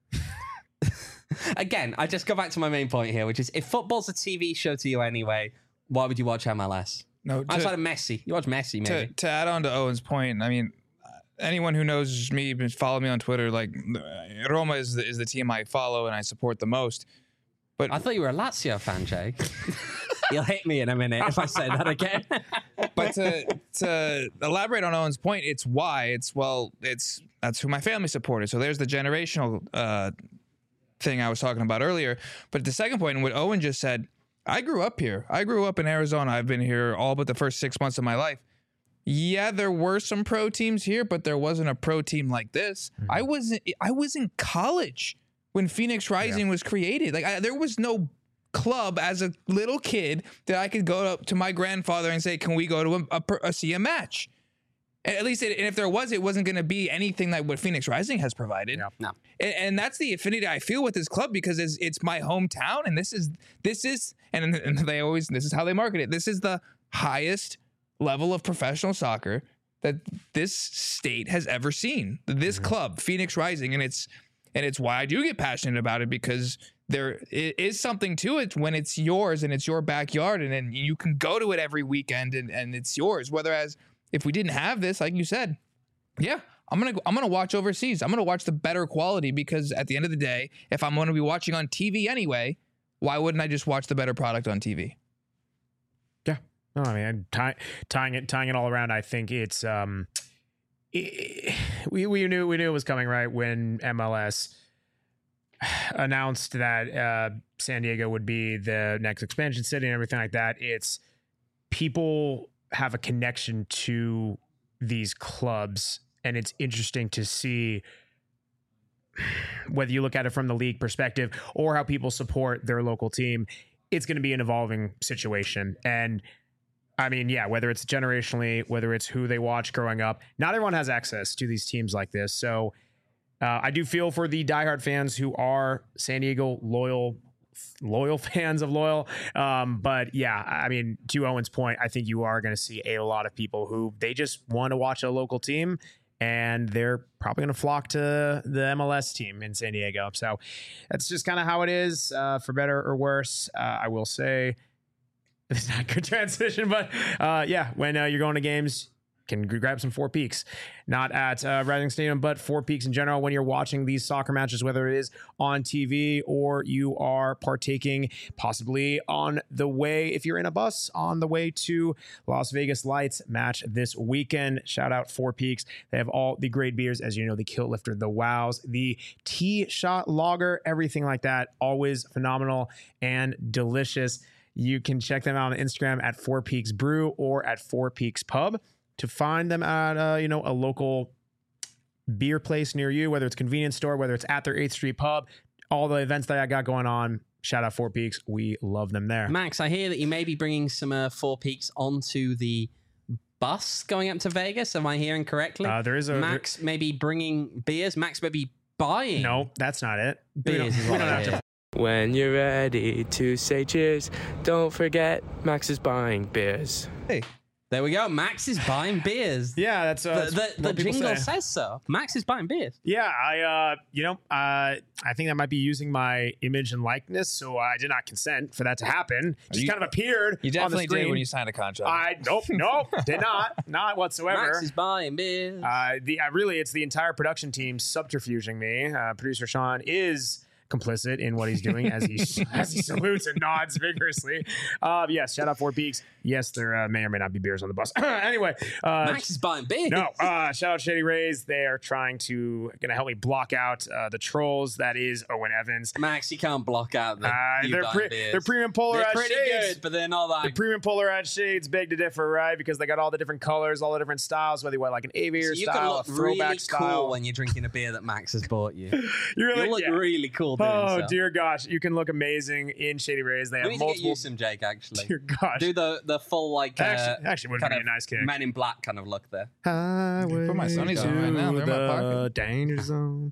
again, I just go back to my main point here, which is if football's a T V show to you anyway, why would you watch M L S? No, to, outside of Messi, you watch Messi. Maybe to, to add on to Owen's point, I mean, anyone who knows me, follow me on Twitter. Like Roma is the, is the team I follow and I support the most. But I thought you were a Lazio fan, Jake. You'll hate me in a minute if I say that again. But to to elaborate on Owen's point, it's why it's well, it's that's who my family supported. So there's the generational uh, thing I was talking about earlier. But the second point, and what Owen just said. I grew up here. I grew up in Arizona. I've been here all but the first six months of my life. Yeah, there were some pro teams here, but there wasn't a pro team like this. Mm-hmm. I wasn't. I was in college when Phoenix Rising yeah. was created. Like I, there was no club as a little kid that I could go up to my grandfather and say, "Can we go to a, a, a see a match?" At least, it, and if there was, it wasn't going to be anything like what Phoenix Rising has provided. Yeah. No, and, and that's the affinity I feel with this club because it's, it's my hometown, and this is this is, and, and they always this is how they market it. This is the highest level of professional soccer that this state has ever seen. This mm-hmm. club, Phoenix Rising, and it's and it's why I do get passionate about it because there is something to it when it's yours and it's your backyard, and then you can go to it every weekend and, and it's yours. Whereas if we didn't have this, like you said, yeah, I'm gonna I'm gonna watch overseas. I'm gonna watch the better quality, because at the end of the day, if I'm gonna be watching on T V anyway, why wouldn't I just watch the better product on T V? Yeah, no, I mean, tie, tying it tying it all around, I think it's um, it, we we knew we knew it was coming, right, when M L S announced that uh, San Diego would be the next expansion city and everything like that. It's people have a connection to these clubs, and it's interesting to see whether you look at it from the league perspective or how people support their local team. It's going to be an evolving situation. And I mean, yeah, whether it's generationally, whether it's who they watch growing up, not everyone has access to these teams like this. So uh, I do feel for the diehard fans who are San Diego loyal loyal fans of Loyal. Um, but yeah, I mean, to Owen's point, I think you are going to see a lot of people who they just want to watch a local team, and they're probably going to flock to the M L S team in San Diego. So that's just kind of how it is, uh, for better or worse. Uh, I will say it's not a good transition, but uh, yeah, when uh, you're going to games, can grab some Four Peaks, not at uh, Rising Stadium, but Four Peaks in general. When you're watching these soccer matches, whether it is on T V or you are partaking possibly on the way, if you're in a bus on the way to Las Vegas Lights match this weekend, shout out Four Peaks. They have all the great beers, as you know, the Kilt Lifter, the Wows, the T-Shot Lager, everything like that. Always phenomenal and delicious. You can check them out on Instagram at Four Peaks Brew or at Four Peaks Pub. To find them at uh, you know, a local beer place near you, whether it's a convenience store, whether it's at their eighth Street pub, all the events that I got going on, shout out Four Peaks. We love them there. Max, I hear that you may be bringing some uh, Four Peaks onto the bus going up to Vegas. Am I hearing correctly? Uh, there is a Max may be bringing beers. Max may be buying. No, that's not it. Beers is what I hear. When you're ready to say cheers, don't forget Max is buying beers. Hey. There we go. Max is buying beers. Yeah, that's, uh, the, that's the, what the people jingle say. says so. Max is buying beers. Yeah, I, uh, you know, uh, I think that might be using my image and likeness, so I did not consent for that to happen. Just You- kind of appeared. You on the definitely screen. did when you signed a contract. I nope, nope, did not, not whatsoever. Max is buying beers. Uh, the uh, really, it's the entire production team subterfuging me. Uh, producer Sean is complicit in what he's doing as he as he salutes and nods vigorously. Uh, yes, shout out Four Peaks. Yes, there uh, may or may not be beers on the bus. Anyway, uh, Max is buying beers. no, uh, shout out Shady Rays. They are trying to gonna help me block out uh, the trolls. That is Owen Evans. Max, you can't block out the Uh, you they're buying pre- beers. they're premium They're polarized pretty shades. good, but they're not The like. premium polarized shades beg to differ, right? Because they got all the different colors, all the different styles. Whether you want like an So aviator you can style, a look throwback really style. cool when you're drinking a beer that Max has bought you. You're You like, look yeah. really cool doing Oh so. dear gosh, you can look amazing in Shady Rays. They We have need to get multiple. you some, Jake, actually. Dear gosh, Do the, the full, like, uh, actually, actually would kind be a of nice kick. Men in Black kind of look there. Highway Put my Sonys on right now. They're in my to pocket. the danger zone.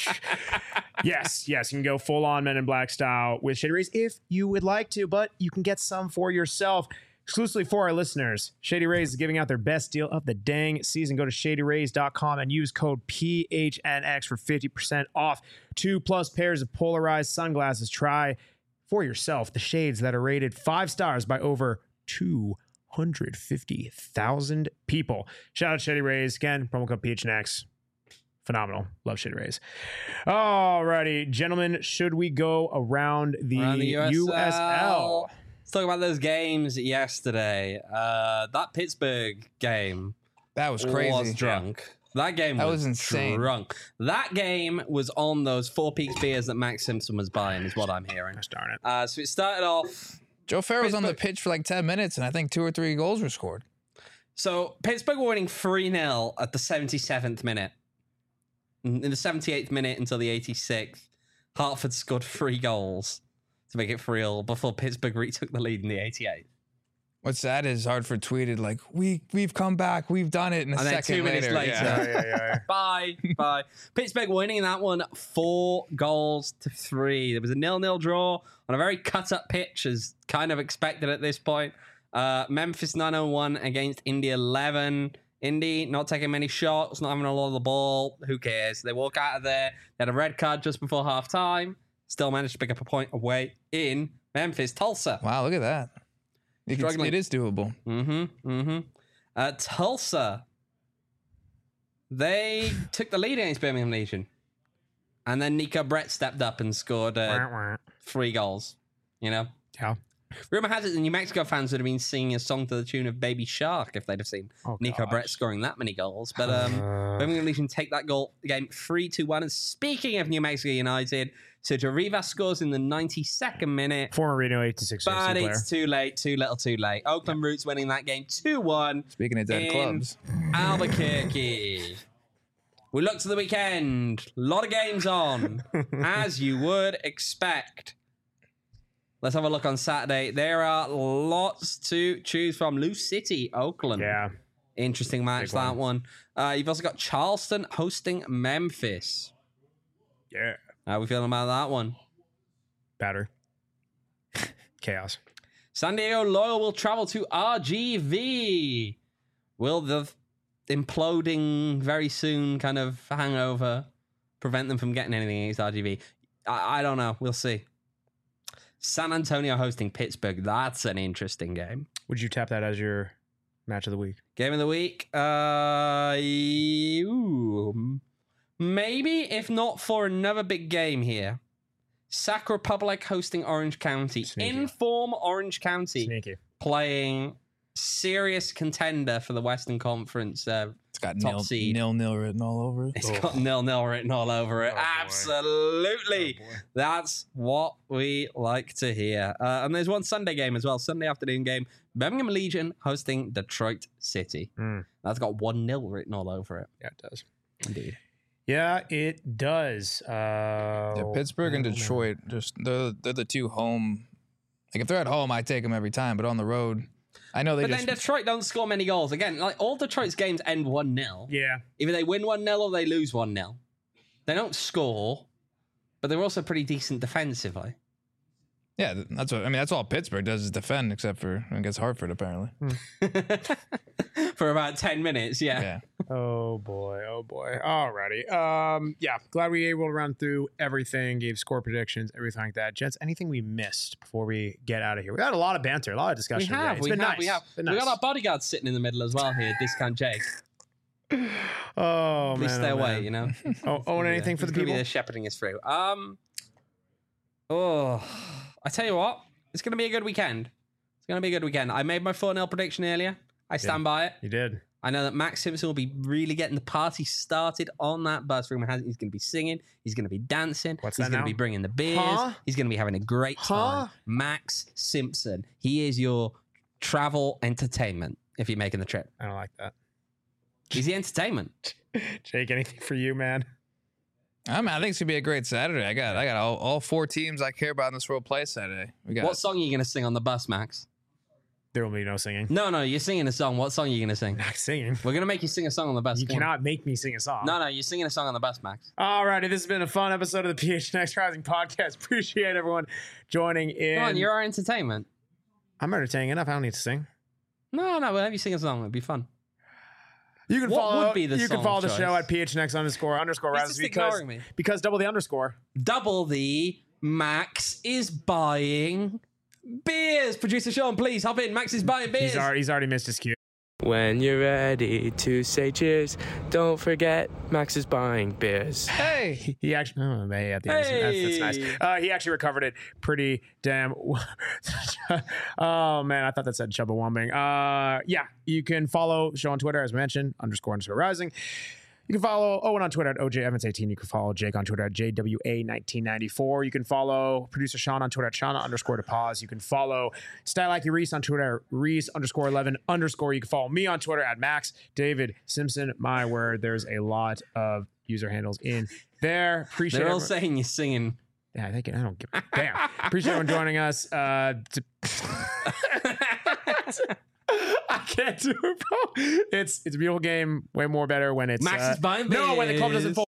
yes, yes, you can go full on Men in Black style with Shady Rays if you would like to, but you can get some for yourself. Exclusively for our listeners, Shady Rays is giving out their best deal of the dang season. Go to shady rays dot com and use code P H N X for fifty percent off two plus pairs of polarized sunglasses. Try for yourself the shades that are rated five stars by over two hundred fifty thousand people. Shout out Shady Rays. Again, promo code P H N X. Phenomenal. Love Shady Rays. Alrighty, gentlemen, should we go around the, Around the U S L? Let's talk about those games yesterday. Uh, that Pittsburgh game that was crazy. was drunk. That game That was, was insane. drunk. That game was on those Four Peaks beers that Max Simpson was buying, is what I'm hearing. Gosh darn it. Uh, so it started off. Joe Farrow was on the Pittsburgh- pitch for like ten minutes, and I think two or three goals were scored. So Pittsburgh were winning three nil at the seventy-seventh minute. In the seventy-eighth minute until the eighty-sixth, Hartford scored three goals to make it three all before Pittsburgh retook the lead in the eighty-eighth. What's sad is Hartford tweeted like, "We we've come back, we've done it." And a And then second two minutes later, yeah. yeah, yeah. bye, bye. Pittsburgh winning that one four goals to three. There was a nil-nil draw on a very cut-up pitch, as kind of expected at this point. Uh, Memphis nine oh one against Indy eleven. Indy not taking many shots, not having a lot of the ball. Who cares? They walk out of there. They had a red card just before half time. still managed to pick up a point away in Memphis. Tulsa. Wow, look at that. You can, Struggling. it is doable. Mm-hmm. Mm-hmm. Uh, Tulsa. They took the lead against Birmingham Legion. And then Nico Brett stepped up and scored uh, three goals. You know? Yeah. Rumor has it the New Mexico fans would have been singing a song to the tune of Baby Shark if they'd have seen Oh, Nico gosh. Brett scoring that many goals. But um, Uh. Birmingham Legion take that goal game three two one. And speaking of New Mexico United, Sergio Rivas scores in the ninety-second minute. Former Reno eighty-six But player. it's too late, too little, too late. Oakland Roots winning that game two one. Speaking of dead in clubs. Albuquerque. We look to the weekend. A lot of games on, as you would expect. Let's have a look on Saturday. There are lots to choose from. Lou City, Oakland. Yeah. Interesting match, Big that one. Uh, you've also got Charleston hosting Memphis. Yeah. How are we feeling about that one? Batter. Chaos. San Diego Loyal will travel to R G V. Will the imploding very soon kind of hangover prevent them from getting anything against R G V? I, I don't know. We'll see. San Antonio hosting Pittsburgh. That's an interesting game. Would you tap that as your match of the week? Game of the week. Uh, ooh, maybe if not for another big game here. Sac Republic hosting Orange County. Sneaky. Inform Orange County Sneaky. playing serious contender for the Western Conference. Uh, It's got top nil, seed. nil nil written all over it. it's got nil nil written all over it. Oh, boy. Absolutely. Oh, boy. That's what we like to hear. Uh, and there's one Sunday game as well. Sunday afternoon game. Birmingham Legion hosting Detroit City. Mm. That's got one nil written all over it. Yeah, it does. Indeed. Yeah, it does. Uh, Yeah, Pittsburgh and oh, man. Detroit, just they're, they're the two home. Like if they're at home, I take them every time. But on the road, I know they But just. then Detroit don't score many goals. Again, like all Detroit's games end one nil. Yeah. Either they win one nil or they lose one nil. They don't score, but they're also pretty decent defensively. yeah, that's what I mean. That's all Pittsburgh does is defend, except for against Hartford, apparently. For about ten minutes, yeah. Yeah. Oh boy, oh boy. Alrighty. Um, yeah, glad we were able to run through everything, gave score predictions, everything like that. Gents, anything we missed before we get out of here? We had a lot of banter, a lot of We discussion. have, today. It's we been have, nice. we have. Been We nice. got our bodyguard sitting in the middle as well here, Discount Jake. Oh Please man, stay oh, away, man. you know. Oh, own anything for the He's gonna people? be there shepherding us through. Um, oh, I tell you what, it's going to be a good weekend. It's going to be a good weekend. I made my four nil prediction earlier. I stand by it. You did. I know that Max Simpson will be really getting the party started on that bus. Rumor has it he's going to be singing. He's going to be dancing. What's he's that going to now? be bringing the beers. Huh? He's going to be having a great time. Huh? Max Simpson. He is your travel entertainment if you're making the trip. I don't like that. He's the entertainment. Jake, anything for you, man? I mean, I think it's gonna be a great Saturday. I got, I got all, all four teams I care about in this world play Saturday. We got What song are you going to sing on the bus, Max? There will be no singing. No, no, you're singing a song. What song are you going to sing? Not singing. We're going to make you sing a song on the bus. You Come on. cannot make me sing a song. No, no, you're singing a song on the bus, Max. Alrighty, this has been a fun episode of the P H N X Rising podcast. Appreciate everyone joining in. Come on, you're our entertainment. I'm entertaining enough. I don't need to sing. No, no, we'll have you sing a song. It'd be fun. You can What follow. would be the you can song follow of the choice? show at P H N X underscore underscore He's Raz just because ignoring me. because double the underscore. Double the Max is buying beers. Producer Sean, please hop in. Max is buying beers. He's already he's already missed his cue. When you're ready to say cheers, don't forget Max is buying beers. Hey, He, he actually. Oh, hey, at the end. That's, that's Hey. nice. Uh, he actually recovered it pretty damn. Oh man, I thought that said Chubbawambing. Uh, yeah, you can follow the show on Twitter as mentioned underscore underscore Rising. You can follow Owen on Twitter at O J Evans eighteen. You can follow Jake on Twitter at J W A nineteen ninety-four. You can follow producer Sean on Twitter at Shauna underscore to pause. You can follow Style Like You Reese on Twitter at Reese underscore eleven underscore. You can follow me on Twitter at Max David Simpson. My word, there's a lot of user handles in there. Appreciate They're all everyone- saying you're singing. Yeah, I think I don't give a damn. Appreciate everyone joining us. Uh, to- I can't do it, bro. It's it's a beautiful game. Way more better when it's Max uh, is buying no when the club doesn't beers. fold.